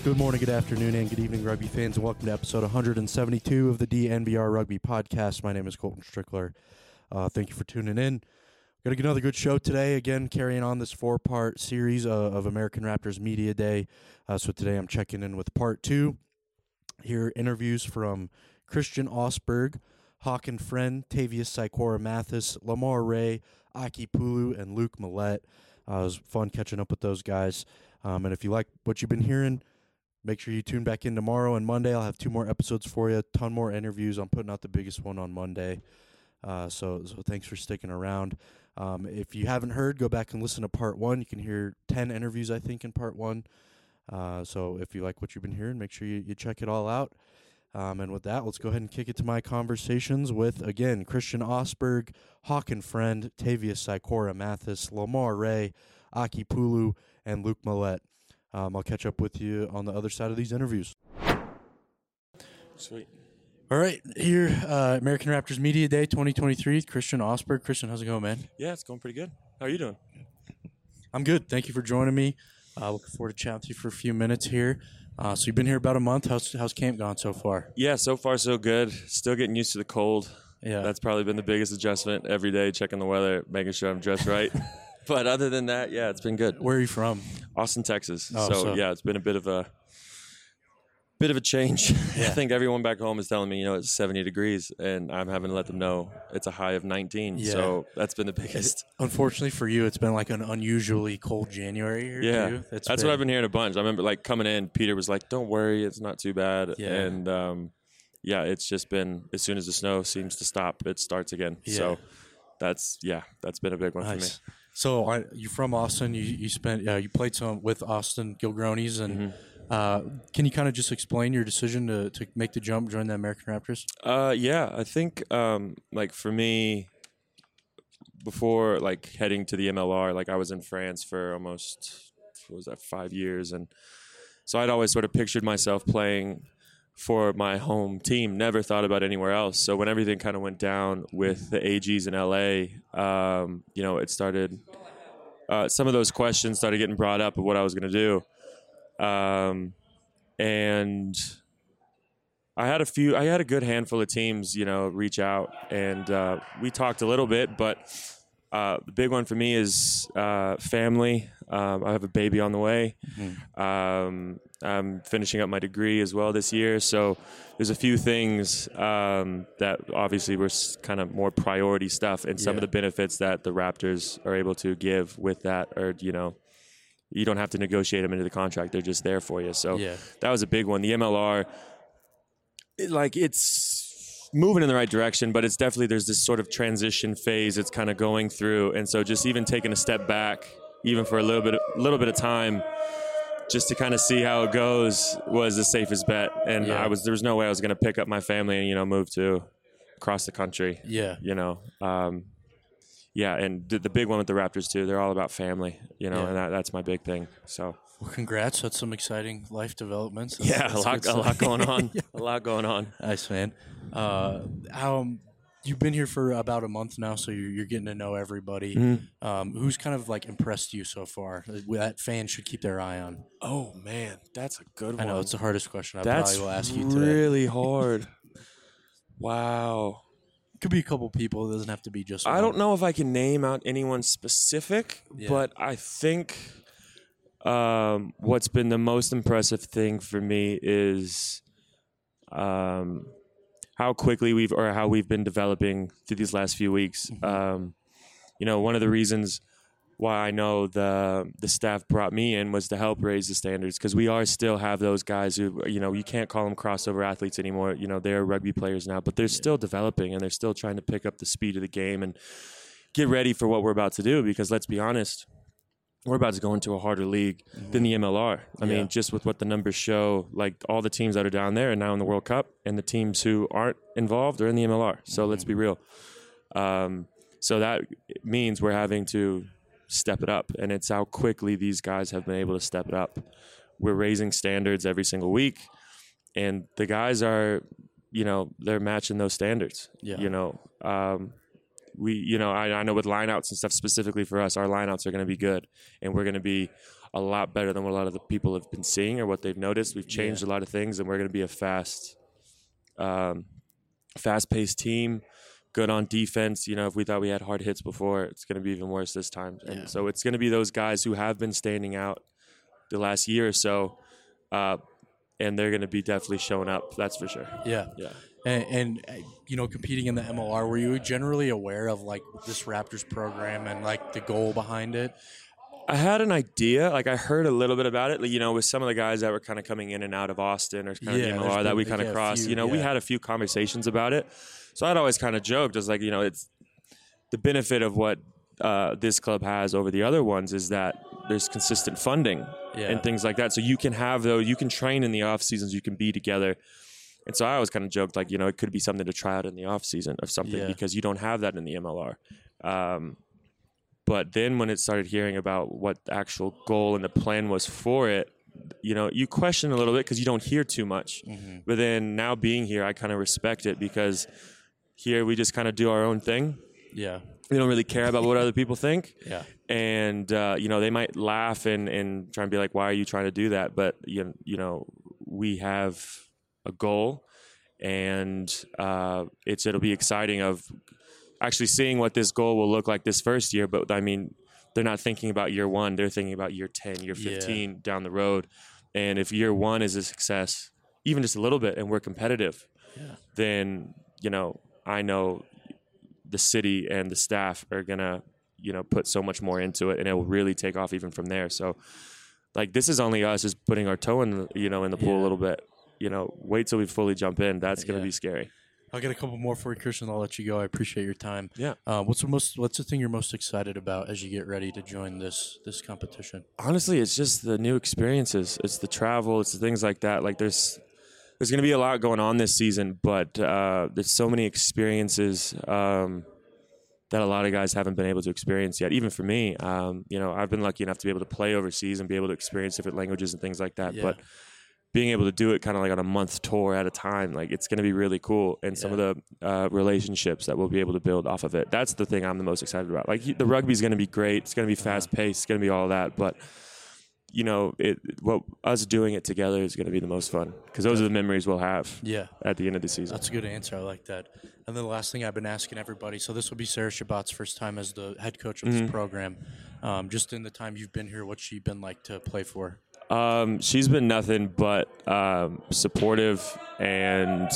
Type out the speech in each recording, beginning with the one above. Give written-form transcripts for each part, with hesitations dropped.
Good morning, good afternoon, and good evening, rugby fans, and welcome to episode 172 of the DNVR Rugby Podcast. My name is Colton Strickler. Thank you for tuning in. Got another good show today. Again, carrying on this four-part series of American Raptors Media Day. So today I'm checking in with part two. Here, interviews from Christian Osberg, Håkan Friend, Tavius Sikora-Mathis, Lamar Ray, Aki Pulu, and Luke Millette. It was fun catching up with those guys. And if you like what you've been hearing, make sure you tune back in tomorrow and Monday. I'll have 2 more episodes for you, a ton more interviews. I'm putting out the biggest one on Monday. So thanks for sticking around. If you haven't heard, go back and listen to part 1. You can hear 10 interviews, I think, in part 1. So if you like what you've been hearing, make sure you check it all out. And with that, let's go ahead and kick it to my conversations with, again, Christian Osberg, Håkan Friend, Tavius Sikora-Mathis, Lamar Ray, Aki Pulu, and Luke Millette. I'll catch up with you on the other side of these interviews. Sweet. All right, here, American Raptors Media Day 2023, Christian Osberg. Christian, how's it going, man? Yeah, it's going pretty good. How are you doing? I'm good. Thank you for joining me. Looking forward to chatting with you for a few minutes here. So you've been here about a month. How's camp gone so far? Yeah, so far so good. Still getting used to the cold. Yeah. That's probably been the biggest adjustment every day, checking the weather, making sure I'm dressed right. But other than that, yeah, it's been good. Where are you from? Austin, Texas. Oh, so yeah, it's been a bit of a change. Yeah. I think everyone back home is telling me, it's 70 degrees, and I'm having to let them know it's a high of 19. Yeah. So that's been the biggest. Unfortunately for you, it's been like an unusually cold January here, Yeah, too. that's what I've been hearing a bunch. I remember coming in, Peter was like, "Don't worry, it's not too bad." Yeah. And it's just been, as soon as the snow seems to stop, it starts again. Yeah. So that's been a big one for me. So you're from Austin. You played some with Austin Gilgronis, and can you kind of just explain your decision to make the jump, join the American Raptors? Yeah, I think for me, before heading to the MLR, I was in France for almost 5 years, and so I'd always sort of pictured myself playing for my home team, never thought about anywhere else. So when everything kind of went down with the AGs in LA, it started, some of those questions started getting brought up of what I was going to do. And I had a good handful of teams, reach out, and we talked a little bit, but the big one for me is family. I have a baby on the way. Mm-hmm. I'm finishing up my degree as well this year, so there's a few things that obviously were kind of more priority stuff, and some of the benefits that the Raptors are able to give with that are, you don't have to negotiate them into the contract; they're just there for you. So that was a big one. The MLR, it's moving in the right direction, but it's definitely, there's this sort of transition phase it's kind of going through, and so just even taking a step back, even for a little bit of time, just to kind of see how it goes, was the safest bet. And there was no way I was going to pick up my family and move to across the country. And the big one with the Raptors too, they're all about family, and that's my big thing. So well, congrats. That's some exciting life developments. That's a lot going on. A lot going on. Nice, man. You've been here for about a month now, so you're getting to know everybody. Mm-hmm. Who's kind of impressed you so far that fans should keep their eye on? Oh man, that's a good one. I know it's the hardest question That's probably will ask you today. Really hard. Wow. Could be a couple people. It doesn't have to be just one. I don't know if I can name out anyone specific, but I think what's been the most impressive thing for me is how quickly how we've been developing through these last few weeks. Mm-hmm. One of the reasons why I know the staff brought me in was to help raise the standards, because we still have those guys who, you can't call them crossover athletes anymore. They're rugby players now, but they're still developing, and they're still trying to pick up the speed of the game and get ready for what we're about to do, because let's be honest, we're about to go into a harder league than the MLR. I mean, just with what the numbers show, all the teams that are down there are now in the World Cup, and the teams who aren't involved are in the MLR. So let's be real. So that means we're having to step it up, and it's how quickly these guys have been able to step it up. We're raising standards every single week, and the guys are, they're matching those standards. I know with lineouts and stuff specifically for us, our lineouts are going to be good, and we're going to be a lot better than what a lot of the people have been seeing or what they've noticed. We've changed a lot of things, and we're going to be a fast-paced team, good on defense. You know, if we thought we had hard hits before, it's going to be even worse this time. And so it's going to be those guys who have been standing out the last year or so, and they're going to be definitely showing up. That's for sure. Yeah. And you know, competing in the MLR, were you generally aware of like this Raptors program and like the goal behind it? I had an idea. Like I heard a little bit about it. Like, you know, with some of the guys that were kind of coming in and out of Austin or kind of the MLR that we kind of crossed. You know, we had a few conversations about it. So I'd always kind of joked, I was like, you know, it's the benefit of what this club has over the other ones is that there's consistent funding and things like that. So you can have those, you can train in the off seasons, you can be together. And so I always kind of joked, like, you know, it could be something to try out in the off season of something because you don't have that in the MLR. But then when it started hearing about what the actual goal and the plan was for it, you know, you question a little bit because you don't hear too much. But then now being here, I kind of respect it because here we just kind of do our own thing. Yeah. We don't really care about what other people think. Yeah. And, you know, they might laugh and try and be like, why are you trying to do that? But, you know, we have a goal, and it'll be exciting of actually seeing what this goal will look like this first year. But, I mean, they're not thinking about year one. They're thinking about year 10, year 15 down the road. And if year one is a success, even just a little bit, and we're competitive, then, you know, I know the city and the staff are going to, you know, put so much more into it, and it will really take off even from there. So, like, this is only us just putting our toe in the, you know, in the pool a little bit. You know, wait till we fully jump in. That's going to be scary. I'll get a couple more for you, Christian. I'll let you go. I appreciate your time. Yeah. What's the thing you're most excited about as you get ready to join this competition? Honestly, it's just the new experiences. It's the travel. It's the things like that. Like there's going to be a lot going on this season, but there's so many experiences that a lot of guys haven't been able to experience yet. Even for me, you know, I've been lucky enough to be able to play overseas and be able to experience different languages and things like that. Yeah. But being able to do it kind of like on a month tour at a time, like it's going to be really cool. And some of the relationships that we'll be able to build off of it. That's the thing I'm the most excited about. Like the rugby's going to be great. It's going to be fast paced. It's going to be all that. But, you know, us doing it together is going to be the most fun because those are the memories we'll have at the end of the season. That's a good answer. I like that. And then the last thing I've been asking everybody, so this will be Sarah Shabbat's first time as the head coach of this program. Just in the time you've been here, what's she been like to play for? She's been nothing but supportive and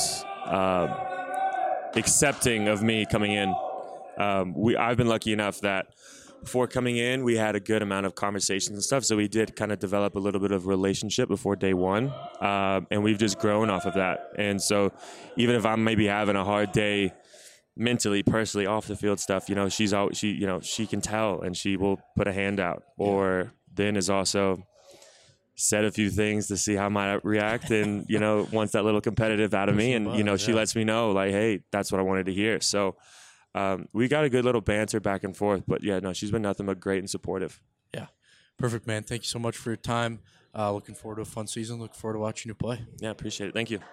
accepting of me coming in. I've been lucky enough that before coming in, we had a good amount of conversations and stuff. So we did kind of develop a little bit of relationship before day one, and we've just grown off of that. And so even if I'm maybe having a hard day mentally, personally, off the field stuff, you know, she can tell and she will put a hand out. Or then is also said a few things to see how I might react, and you know, wants that little competitive out of me, and you know, she lets me know like, hey, that's what I wanted to hear. So we got a good little banter back and forth, but yeah, no, she's been nothing but great and supportive. Yeah, perfect, man. Thank you so much for your time. Looking forward to a fun season. Looking forward to watching you play. Yeah, appreciate it. Thank you.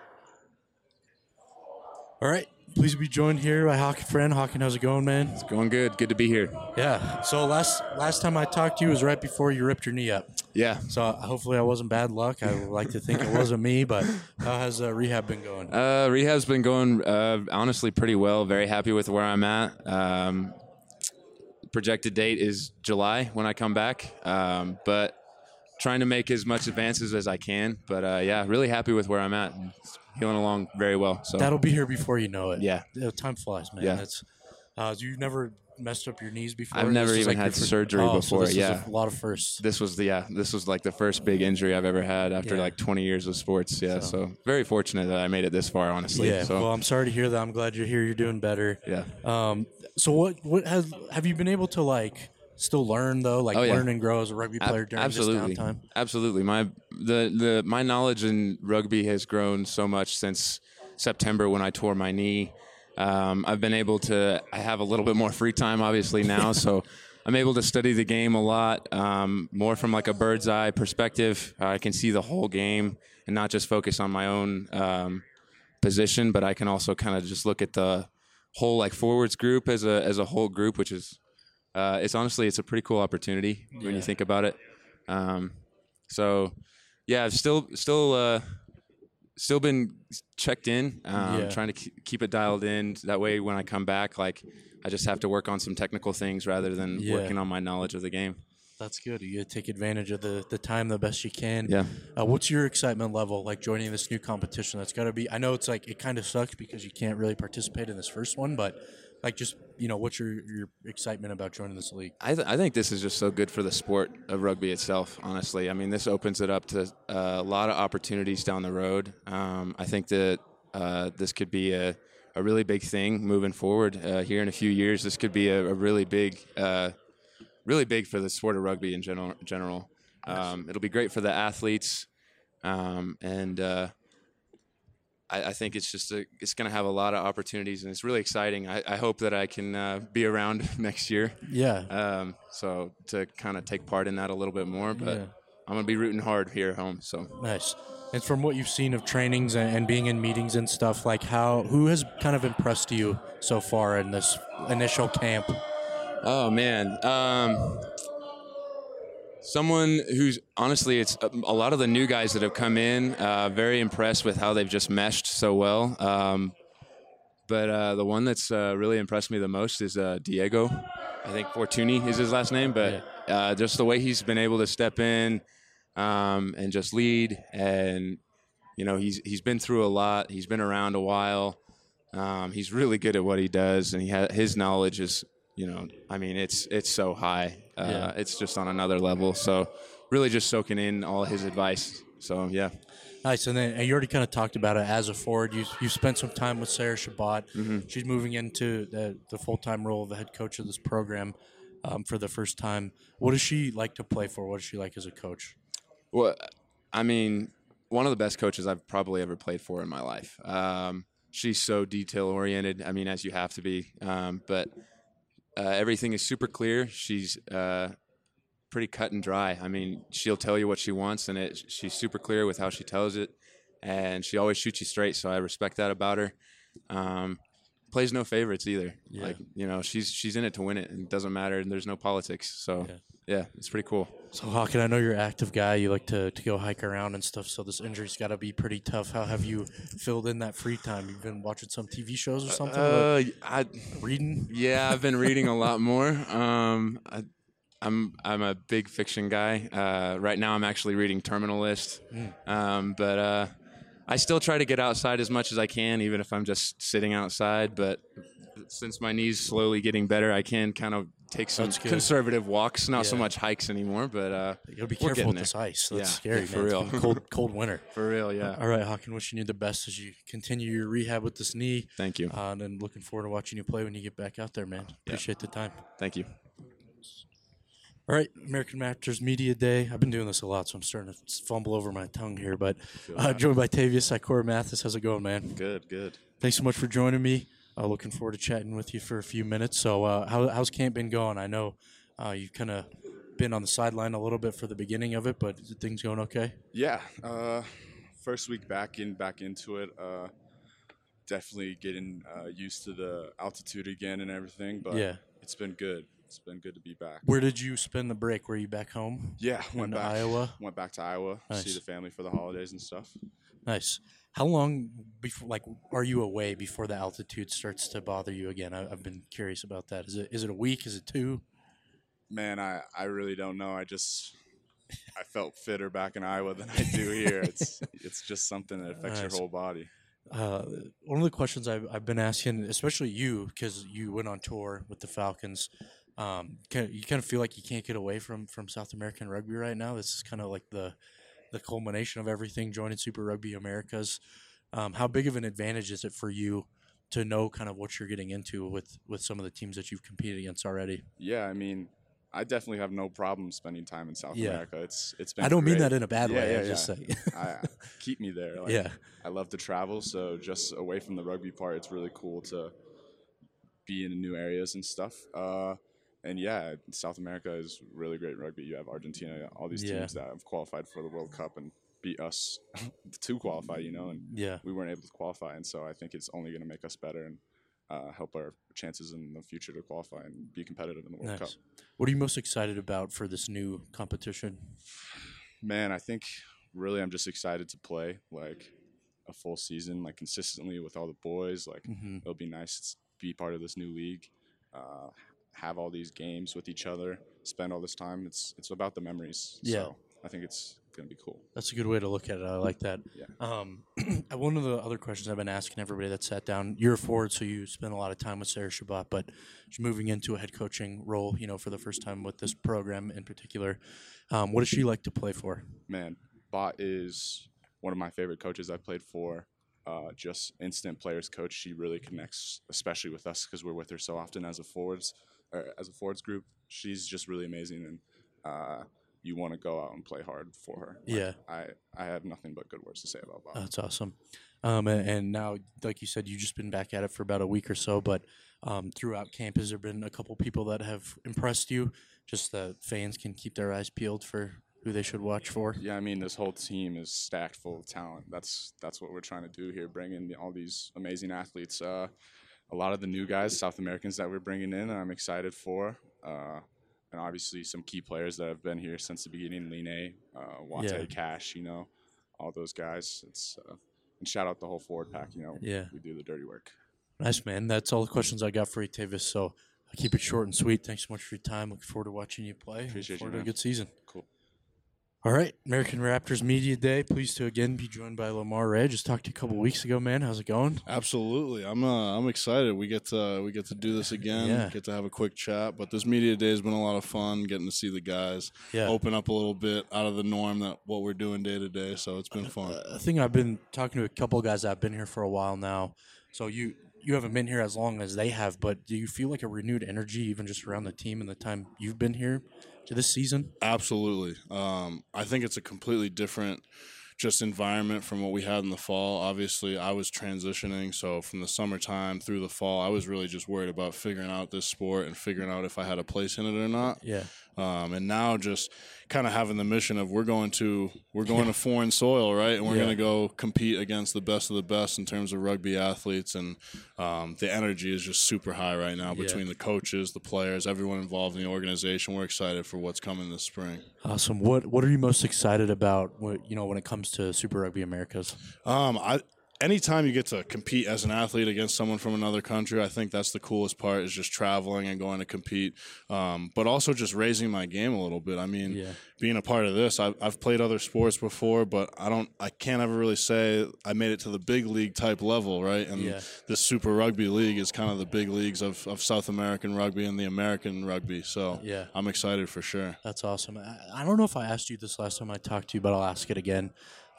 All right. Please be joined here by Hockey Friend. Hawken, how's it going, man? It's going good. Good to be here. Yeah. So last time I talked to you was right before you ripped your knee up. Yeah. So hopefully I wasn't bad luck. I would like to think it wasn't me, but how has rehab been going? Rehab's been going honestly pretty well. Very happy with where I'm at. Projected date is July when I come back, but trying to make as much advances as I can. But yeah, really happy with where I'm at. It's healing along very well. So that'll be here before you know it. Yeah. Time flies, man. Yeah. You've never messed up your knees before? I've never even had surgery before. So this is a lot of firsts. This was like the first big injury I've ever had after like 20 years of sports. Yeah. So very fortunate that I made it this far, honestly. Yeah. So. Well, I'm sorry to hear that. I'm glad you're here. You're doing better. Yeah. So what have you been able to like still learn though? Like learn and grow as a rugby player during this downtime? Absolutely. My knowledge in rugby has grown so much since September when I tore my knee. I've been able to. I have a little bit more free time, obviously now, so I'm able to study the game a lot more from like a bird's eye perspective. I can see the whole game and not just focus on my own position, but I can also kind of just look at the whole like forwards group as a whole group, which is it's a pretty cool opportunity when you think about it. So yeah, I've still been checked in, trying to keep it dialed in. That way, when I come back, like I just have to work on some technical things rather than working on my knowledge of the game. That's good. You got to take advantage of the time the best you can. Yeah. What's your excitement level like joining this new competition? That's got to be. I know it's like it kind of sucks because you can't really participate in this first one, but like just what's your excitement about joining this league? I think this is just so good for the sport of rugby itself. Honestly, I mean, this opens it up to a lot of opportunities down the road. I think that this could be a really big thing moving forward. Here in a few years, this could be a really big for the sport of rugby in general. It'll be great for the athletes, and I think it's just it's going to have a lot of opportunities, and it's really exciting. I hope that I can be around next year. Yeah. So to kind of take part in that a little bit more, but I'm going to be rooting hard here at home. So nice. And from what you've seen of trainings and being in meetings and stuff, like who has kind of impressed you so far in this initial camp? Oh man. Someone who's honestly, it's a lot of the new guys that have come in. Very impressed with how they've just meshed so well. But the one that's really impressed me the most is Diego. I think Fortuny is his last name, but just the way he's been able to step in and just lead, and he's been through a lot. He's been around a while. He's really good at what he does, and his knowledge is. I mean, it's so high. It's just on another level. So really just soaking in all his advice. So, yeah. Nice. And then you already kind of talked about it as a forward. You spent some time with Sarah Shabbat. Mm-hmm. She's moving into the full-time role of the head coach of this program for the first time. What does she like to play for? What does she like as a coach? Well, I mean, one of the best coaches I've probably ever played for in my life. She's so detail-oriented. I mean, as you have to be. But everything is super clear. She's pretty cut and dry. I mean, she'll tell you what she wants, and she's super clear with how she tells it, and she always shoots you straight, so I respect that about her. Plays no favorites either. Yeah. Like, she's in it to win it, and it doesn't matter, and there's no politics. So, yeah it's pretty cool. So, Hawken, I know you're an active guy. You like to go hike around and stuff, so this injury's got to be pretty tough. How have you filled in that free time? You've been watching some TV shows or something? Reading? Yeah, I've been reading a lot more. I'm a big fiction guy. Right now, I'm actually reading Terminal List. But I still try to get outside as much as I can, even if I'm just sitting outside. But since my knee's slowly getting better, I can kind of take some conservative walks, not so much hikes anymore. But you gotta be careful with this ice. That's scary, for man. real. Cold winter. For real, yeah. All right, Hawken, wishing you the best as you continue your rehab with this knee. Thank you. And then looking forward to watching you play when you get back out there, man. Appreciate the time. Thank you. All right, American Masters Media Day. I've been doing this a lot, so I'm starting to fumble over my tongue here. But joined by Tavius Sikora Mathis. How's it going, man? Good. Thanks so much for joining me. Looking forward to chatting with you for a few minutes. So how's camp been going? I know you've kind of been on the sideline a little bit for the beginning of it, but is things going okay? Yeah. First week back into it. Definitely getting used to the altitude again and everything. But it's been good. It's been good to be back. Where did you spend the break? Were you back home? Yeah, went back to Iowa. Nice. See the family for the holidays and stuff. Nice. How long before, are you away before the altitude starts to bother you again? I've been curious about that. Is it a week? Is it 2? Man, I really don't know. I felt fitter back in Iowa than I do here. It's just something that affects your whole body. One of the questions I've been asking, especially you, because you went on tour with the Falcons, you kind of feel like you can't get away from South American rugby right now. This is kind of like the culmination of everything, joining Super Rugby Americas. How big of an advantage is it for you to know kind of what you're getting into with some of the teams that you've competed against already? Yeah, I mean, I definitely have no problem spending time in South America. It's been. I don't great. mean that in a bad way. Yeah, I just say, keep me there. I love to travel, so just away from the rugby part, it's really cool to be in new areas and stuff. And yeah, South America is really great rugby. You have Argentina, all these teams that have qualified for the World Cup and beat us to qualify, and we weren't able to qualify. And so I think it's only going to make us better. And help our chances in the future to qualify and be competitive in the World Cup. What are you most excited about for this new competition? Man, I think really I'm just excited to play like a full season, like consistently with all the boys. Like it'll be nice to be part of this new league, have all these games with each other, spend all this time. It's about the memories. Yeah. So I think it's going to be cool. That's a good way to look at it. I like that. Yeah. One of the other questions I've been asking everybody that sat down, you're a forward, so you spend a lot of time with Sarah Shabbat, but you're moving into a head coaching role, for the first time with this program in particular. What does she like to play for? Man, Bot is one of my favorite coaches I've played for. Just instant players coach. She really connects, especially with us because we're with her so often as a forwards group. She's just really amazing, and you want to go out and play hard for her. Yeah. I have nothing but good words to say about Bob. That's awesome. And now, like you said, you've just been back at it for about a week or so, but throughout camp, has there been a couple people that have impressed you? Just that fans can keep their eyes peeled for who they should watch for? Yeah, I mean, this whole team is stacked full of talent. That's what we're trying to do here, bring in all these amazing athletes. A lot of the new guys, South Americans that we're bringing in, I'm excited for. And obviously some key players that have been here since the beginning, Line, Wate, Cash, all those guys. And shout out the whole forward pack, we do the dirty work. Nice, man. That's all the questions I got for you, Tavis. So I'll keep it short and sweet. Thanks so much for your time. Looking forward to watching you play. Appreciate you, man. man. A good season. Cool. All right, American Raptors Media Day. Pleased to again be joined by Lamar Ray. Just talked to you a couple weeks ago, man. How's it going? Absolutely, I'm excited. We get to do this again. Get to have a quick chat. But this Media Day has been a lot of fun. Getting to see the guys open up a little bit out of the norm that what we're doing day to day. So it's been fun. I think I've been talking to a couple of guys that have been here for a while now. So you haven't been here as long as they have, but do you feel like a renewed energy even just around the team and the time you've been here to this season? Absolutely. I think it's a completely different just environment from what we had in the fall. Obviously, I was transitioning, so from the summertime through the fall, I was really just worried about figuring out this sport and figuring out if I had a place in it or not. Yeah. And now just kind of having the mission of we're going to foreign soil, right? And we're going to go compete against the best of the best in terms of rugby athletes. And the energy is just super high right now between the coaches, the players, everyone involved in the organization. We're excited for what's coming this spring. Awesome. What are you most excited about, when it comes to Super Rugby Americas? Anytime you get to compete as an athlete against someone from another country, I think that's the coolest part, is just traveling and going to compete, but also just raising my game a little bit. I mean, being a part of this, I've played other sports before, but I can't ever really say I made it to the big league type level, right? And this Super Rugby League is kind of the big leagues of South American rugby and the American rugby. So I'm excited for sure. That's awesome. I don't know if I asked you this last time I talked to you, but I'll ask it again.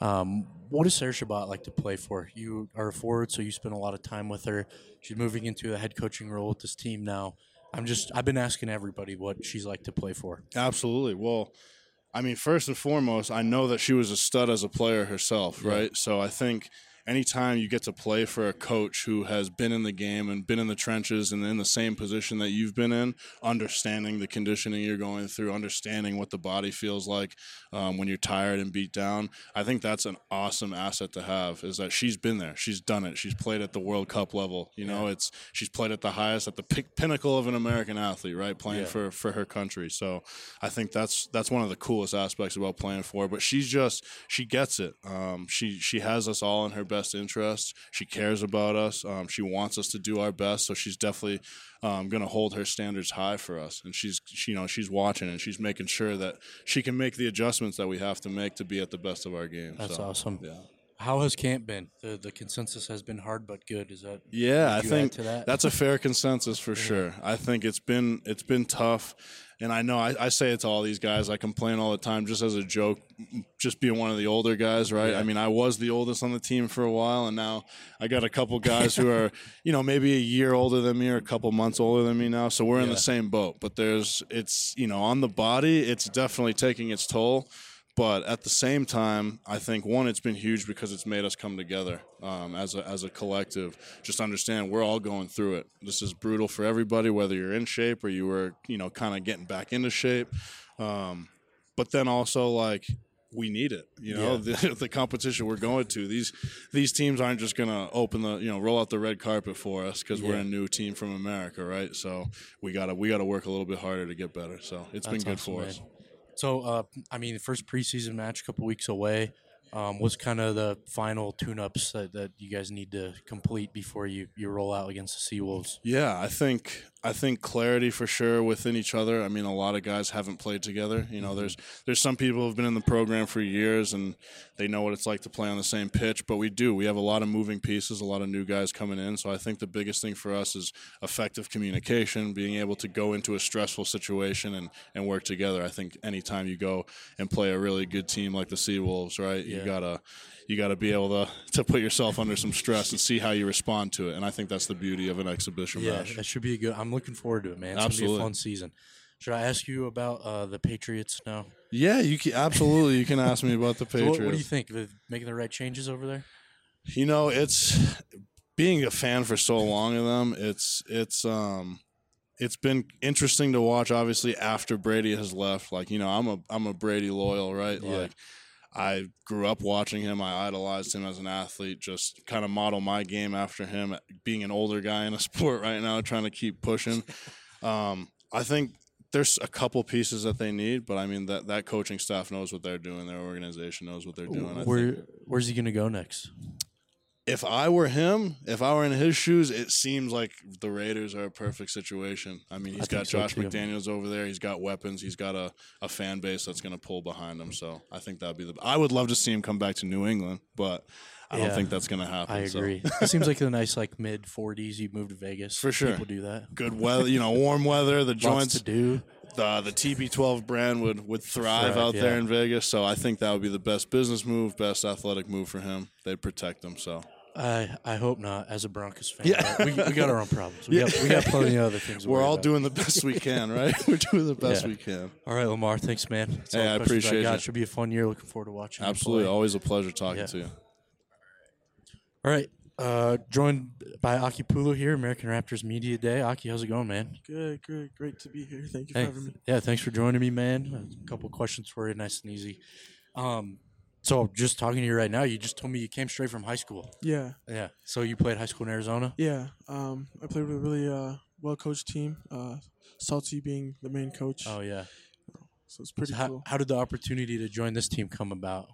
What does Sarah Shabbat like to play for? You are a forward, so you spend a lot of time with her. She's moving into a head coaching role with this team now. I've been asking everybody what she's like to play for. Absolutely. Well, I mean, first and foremost, I know that she was a stud as a player herself, right? So I think anytime you get to play for a coach who has been in the game and been in the trenches and in the same position that you've been in, understanding the conditioning you're going through, understanding what the body feels like when you're tired and beat down, I think that's an awesome asset to have, is that she's been there. She's done it. She's played at the World Cup level. She's played at the highest, at the pinnacle of an American athlete, right, playing for her country. So I think that's one of the coolest aspects about playing for her. But she gets it. She has us all in her best interest. She cares about us. She wants us to do our best. So she's definitely going to hold her standards high for us. And she's watching, and she's making sure that she can make the adjustments that we have to make to be at the best of our game. That's awesome. Yeah. How has camp been? The consensus has been hard but good. Is that? Yeah, I think that's a fair consensus for sure. I think it's been tough, and I know I say it to all these guys. I complain all the time, just as a joke, just being one of the older guys, right? Yeah. I mean, I was the oldest on the team for a while, and now I got a couple guys who are, maybe a year older than me or a couple months older than me now. So we're in the same boat. But it's on the body, it's definitely taking its toll. But at the same time, I think, one, it's been huge because it's made us come together as a collective. Just understand we're all going through it. This is brutal for everybody, whether you're in shape or you were, kind of getting back into shape. But then also, we need it. The competition we're going to. These teams aren't just going to roll out the red carpet for us because we're a new team from America, right? So we gotta work a little bit harder to get better. So it's been good for us. So, the first preseason match a couple weeks away. What's kind of the final tune-ups that you guys need to complete before you roll out against the Seawolves? Yeah, I think clarity for sure within each other. I mean, a lot of guys haven't played together. There's some people who've been in the program for years and they know what it's like to play on the same pitch, but we have a lot of moving pieces, a lot of new guys coming in. So I think the biggest thing for us is effective communication, being able to go into a stressful situation and work together. I think anytime you go and play a really good team like the Seawolves, right, you gotta be able to put yourself under some stress and see how you respond to it. And I think that's the beauty of an exhibition match. Yeah, that should be I'm looking forward to it, man. It's Absolutely. Gonna be a fun season. Should I ask you about the Patriots now? Yeah, absolutely. You can ask me about the Patriots. So what do you think? Making the right changes over there? It's being a fan for so long of them. It's been interesting to watch. Obviously, after Brady has left, I'm a Brady loyal, right? Yeah. I grew up watching him. I idolized him as an athlete, just kind of model my game after him, being an older guy in a sport right now, trying to keep pushing. I think there's a couple pieces that they need, but I mean, that coaching staff knows what they're doing. Their organization knows what they're doing. Where's he going to go next? If I were him, if I were in his shoes, it seems like the Raiders are a perfect situation. I mean, he's got Josh McDaniels over there. He's got weapons. He's got a fan base that's going to pull behind him. So I think that'd be I would love to see him come back to New England, but I don't think that's going to happen. I agree. It seems like a nice mid-40s. You move to Vegas. For sure. People do that. Good weather, warm weather. The joints to do. The TB12 brand would thrive out there in Vegas. So I think that would be the best business move, best athletic move for him. They'd protect him. So. I hope not. As a Broncos fan, we got our own problems. We got plenty of other things. We're all doing the best we can, right? We're doing the best we can. All right, Lamar. Thanks, man. That's I appreciate it. Should be a fun year. Looking forward to watching. Absolutely, always a pleasure talking to you. All right, joined by Aki Pulu here, American Raptors Media Day. Aki, how's it going, man? Good, great to be here. Thank you for having me. Yeah, thanks for joining me, man. A couple questions for you, nice and easy. So just talking to you right now, you just told me you came straight from high school. Yeah. Yeah. So you played high school in Arizona? Yeah. I played with a really well-coached team, Salty being the main coach. Oh, yeah. So it's pretty cool. How did the opportunity to join this team come about?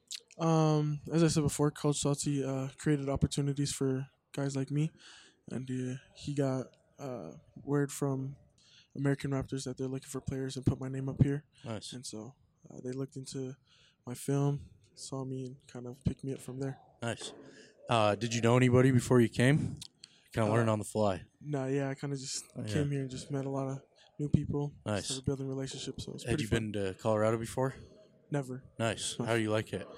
As I said before, Coach Salty created opportunities for guys like me, and he got word from American Raptors that they're looking for players and put my name up here. Nice. And so they looked into my film, saw me, and kind of picked me up from there. Nice. Did you know anybody before you came? Kind of learn on the fly. I kind of just came here and just met a lot of new people. Nice. Started building relationships, so it's Had you been to Colorado before? Never. Nice. How do you like it?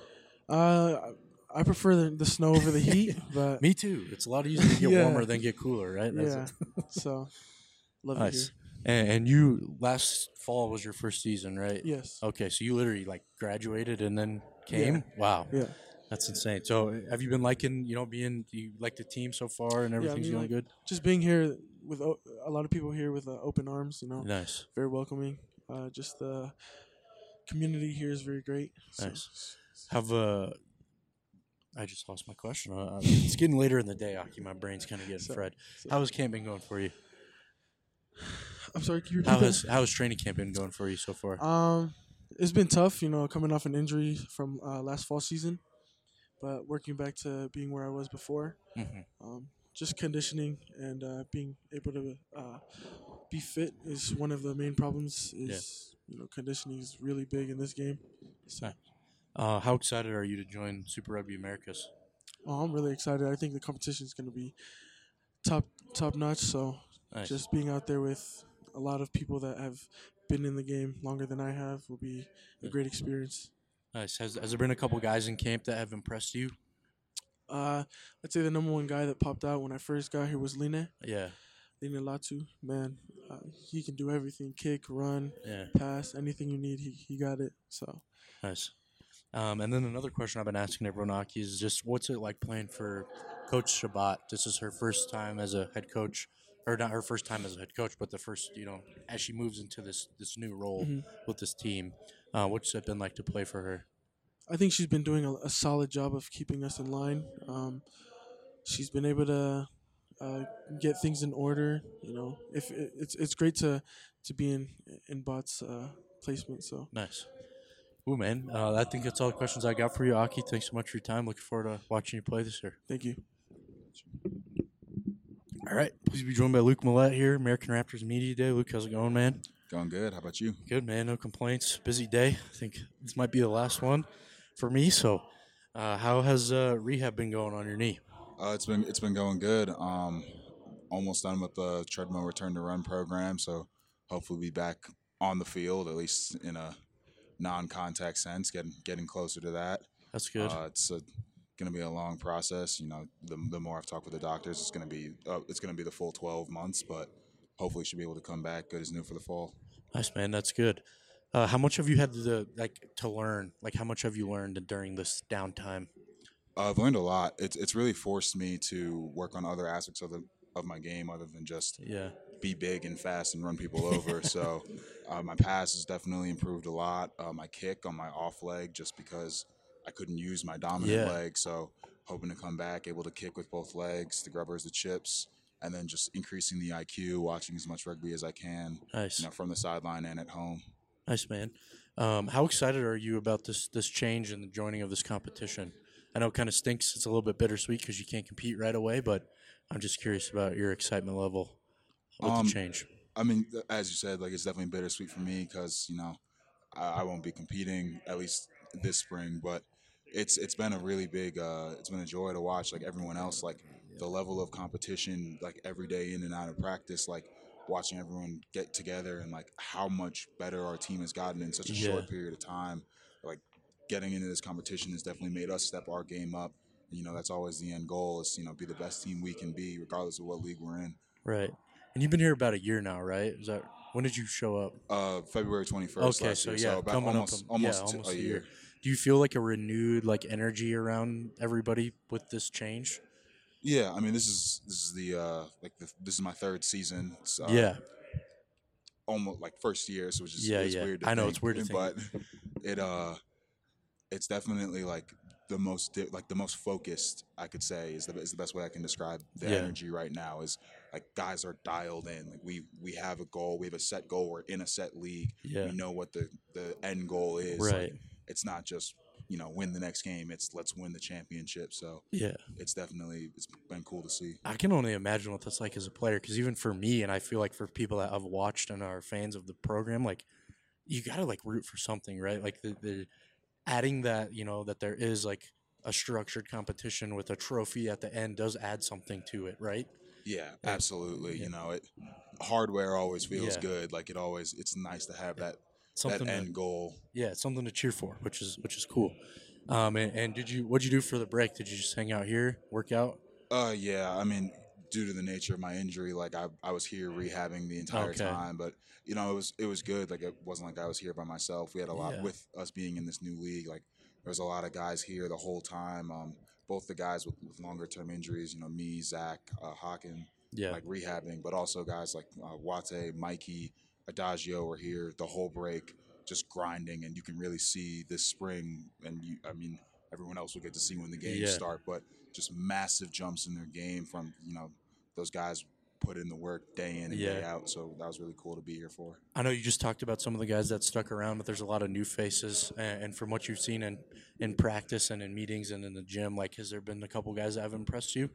I prefer the snow over the heat, but me too. It's a lot easier to get warmer than get cooler, right? That's so love it here. And you last fall was your first season, right? Yes. Okay, so you literally graduated and then came. Yeah. Wow. Yeah. That's insane. So have you been liking, do you like the team so far and everything's going good? Just being here with a lot of people here with open arms, Nice. Very welcoming. Just the community here is very great. Nice. I just lost my question. It's getting later in the day, Aki. My brain's kind of getting fried. How has camp been going for you? I'm sorry, can you repeat that? How has training camp been going for you so far? It's been tough, coming off an injury from last fall season, but working back to being where I was before. Mm-hmm. Just conditioning and being able to be fit is one of the main problems. Conditioning is really big in this game. So. How excited are you to join Super Rugby Americas? Oh, I'm really excited. I think the competition is going to be top notch. So just being out there with a lot of people that have been in the game longer than I have will be a great experience. Nice. Has there been a couple guys in camp that have impressed you? I'd say the number one guy that popped out when I first got here was Line. Yeah. Line Latu. Man, he can do everything. Kick, run, pass, anything you need, he got it. So nice. And then another question I've been asking everyone, Aki, is just what's it like playing for Coach Shabbat? This is her first time as a head coach, or not her first time as a head coach, but the first, as she moves into this new role with this team. What's it been like to play for her? I think she's been doing a solid job of keeping us in line. She's been able to get things in order. If it's great to be in Bot's placement. So Nice. Ooh, man. I think that's all the questions I got for you, Aki. Thanks so much for your time. Looking forward to watching you play this year. thank you. All right. Please be joined by Luke Millette here, American Raptors Media Day. Luke, how's it going, man? Going good. How about you? Good, man. No complaints. Busy day. I think this might be the last one for me. So, how has rehab been going on your knee? It's been going good. Almost done with the treadmill return to run program, so hopefully be back on the field, at least in a non-contact sense, getting closer to that. That's good. It's going to be a long process. The more I've talked with the doctors, it's going to be the full 12 months, but hopefully should be able to come back good as new for the fall. Nice, man. That's good. How much have you had to learn? Like, how much have you learned during this downtime? I've learned a lot. It's really forced me to work on other aspects of my game other than just be big and fast and run people over. So my pass has definitely improved a lot. My kick on my off leg, just because I couldn't use my dominant leg. So hoping to come back, able to kick with both legs, the grubbers, the chips, and then just increasing the IQ, watching as much rugby as I can. Nice. From the sideline and at home. Nice, man. How excited are you about this change and the joining of this competition? I know it kind of stinks. It's a little bit bittersweet because you can't compete right away, but I'm just curious about your excitement level with the change. I mean, as you said, it's definitely bittersweet for me because, I won't be competing at least this spring, but it's been a really big, it's been a joy to watch everyone else, the level of competition, every day in and out of practice, watching everyone get together and how much better our team has gotten in such a short period of time. Getting into this competition has definitely made us step our game up. That's always the end goal is, be the best team we can be, regardless of what league we're in. Right. And you've been here about a year now, right? When did you show up? February 21st. Okay, so so about coming almost up a year. Do you feel a renewed energy around everybody with this change? Yeah, I mean this is the this is my third season. It's, almost first year, so it's weird. I know it's weird to think, but it's definitely the most focused, I could say, is the best way I can describe the energy right now. Is guys are dialed in. We have a goal. We have a set goal. We're in a set league. Yeah. We know what the end goal is. Right. It's not just win the next game. It's let's win the championship. So it's been cool to see. I can only imagine what that's like as a player, because even for me, and I feel for people that I've watched and are fans of the program, you gotta root for something, right? The adding that, that there is a structured competition with a trophy at the end does add something to it, right? Yeah, absolutely. Hardware always feels good. It's nice to have that end goal. Yeah, it's something to cheer for, which is cool. And what'd you do for the break? Did you just hang out here, work out? Yeah. I mean, due to the nature of my injury, I was here rehabbing the entire time, but it was good. It wasn't I was here by myself. We had a lot with us being in this new league. There was a lot of guys here the whole time. Both the guys with longer term injuries, me, Zach, Hawken, rehabbing, but also guys Wate, Mikey, Adagio were here the whole break, just grinding, and you can really see this spring. And everyone else will get to see when the games start, but just massive jumps in their game from those guys put in the work day in and day out. So that was really cool to be here for. I know you just talked about some of the guys that stuck around, but there's a lot of new faces. And from what you've seen in practice and in meetings and in the gym, has there been a couple guys that have impressed you?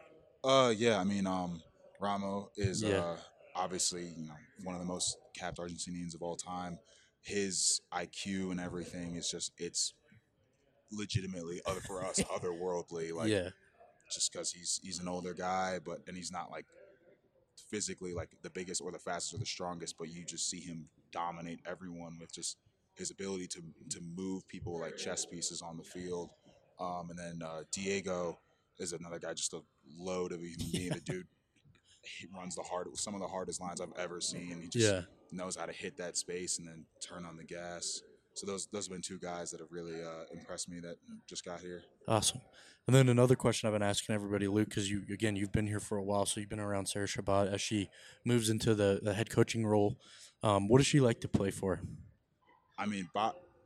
Yeah. I mean, Ramo is obviously one of the most capped Argentinians of all time. His IQ and everything is it's legitimately for us otherworldly. Just because he's an older guy, and he's not physically the biggest or the fastest or the strongest, but you just see him dominate everyone with just his ability to move people like chess pieces on the field. And then Diego is another guy, just a load of a human being. The dude, he runs some of the hardest lines I've ever seen. He just knows how to hit that space and then turn on the gas. So those have been two guys that have really impressed me that just got here. Awesome. And then another question I've been asking everybody, Luke, because you've been here for a while, so you've been around Sarah Shabbat as she moves into the head coaching role. What does she like to play for? I mean,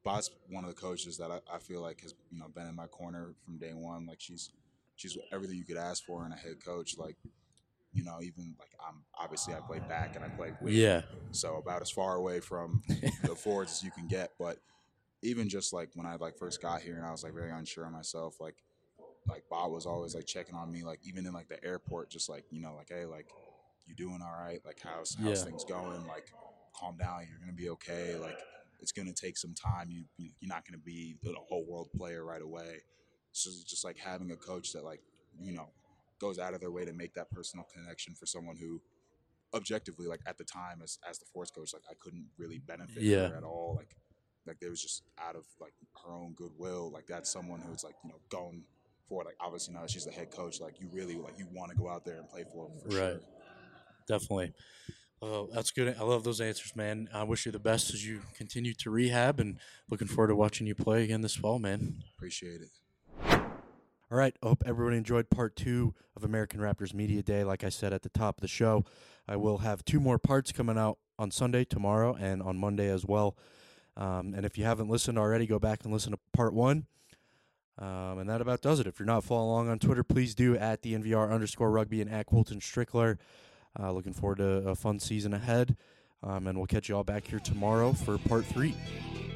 Bot's one of the coaches that I feel like has been in my corner from day one. Like she's everything you could ask for in a head coach. Like even like I play back and I play wing. Yeah. So about as far away from the forwards as you can get. But even just like when I like first got here and I was like very unsure of myself, like Bob was always like checking on me, like even in like the airport, just like like, hey, like you doing all right? Like how's things going? Like calm down, you're gonna be okay. Like it's gonna take some time. You're not gonna be a whole world player right away. So it's just like having a coach that like goes out of their way to make that personal connection for someone who objectively, like at the time as the force coach, like I couldn't really benefit her at all. Like there was just out of like her own goodwill. Like that's someone who's like going for it. Like obviously now that she's the head coach, like you really like you want to go out there and play for them for sure. Definitely. Oh, that's good. I love those answers, man. I wish you the best as you continue to rehab, and looking forward to watching you play again this fall, man. Appreciate it. All right. I hope everyone enjoyed part 2 of American Raptors Media Day. Like I said at the top of the show, I will have 2 more parts coming out on Sunday, tomorrow, and on Monday as well. And if you haven't listened already, go back and listen to part 1. And that about does it. If you're not following along on Twitter, please do at @DNVR_rugby and at Colton Strickler. Looking forward to a fun season ahead. And we'll catch you all back here tomorrow for part 3.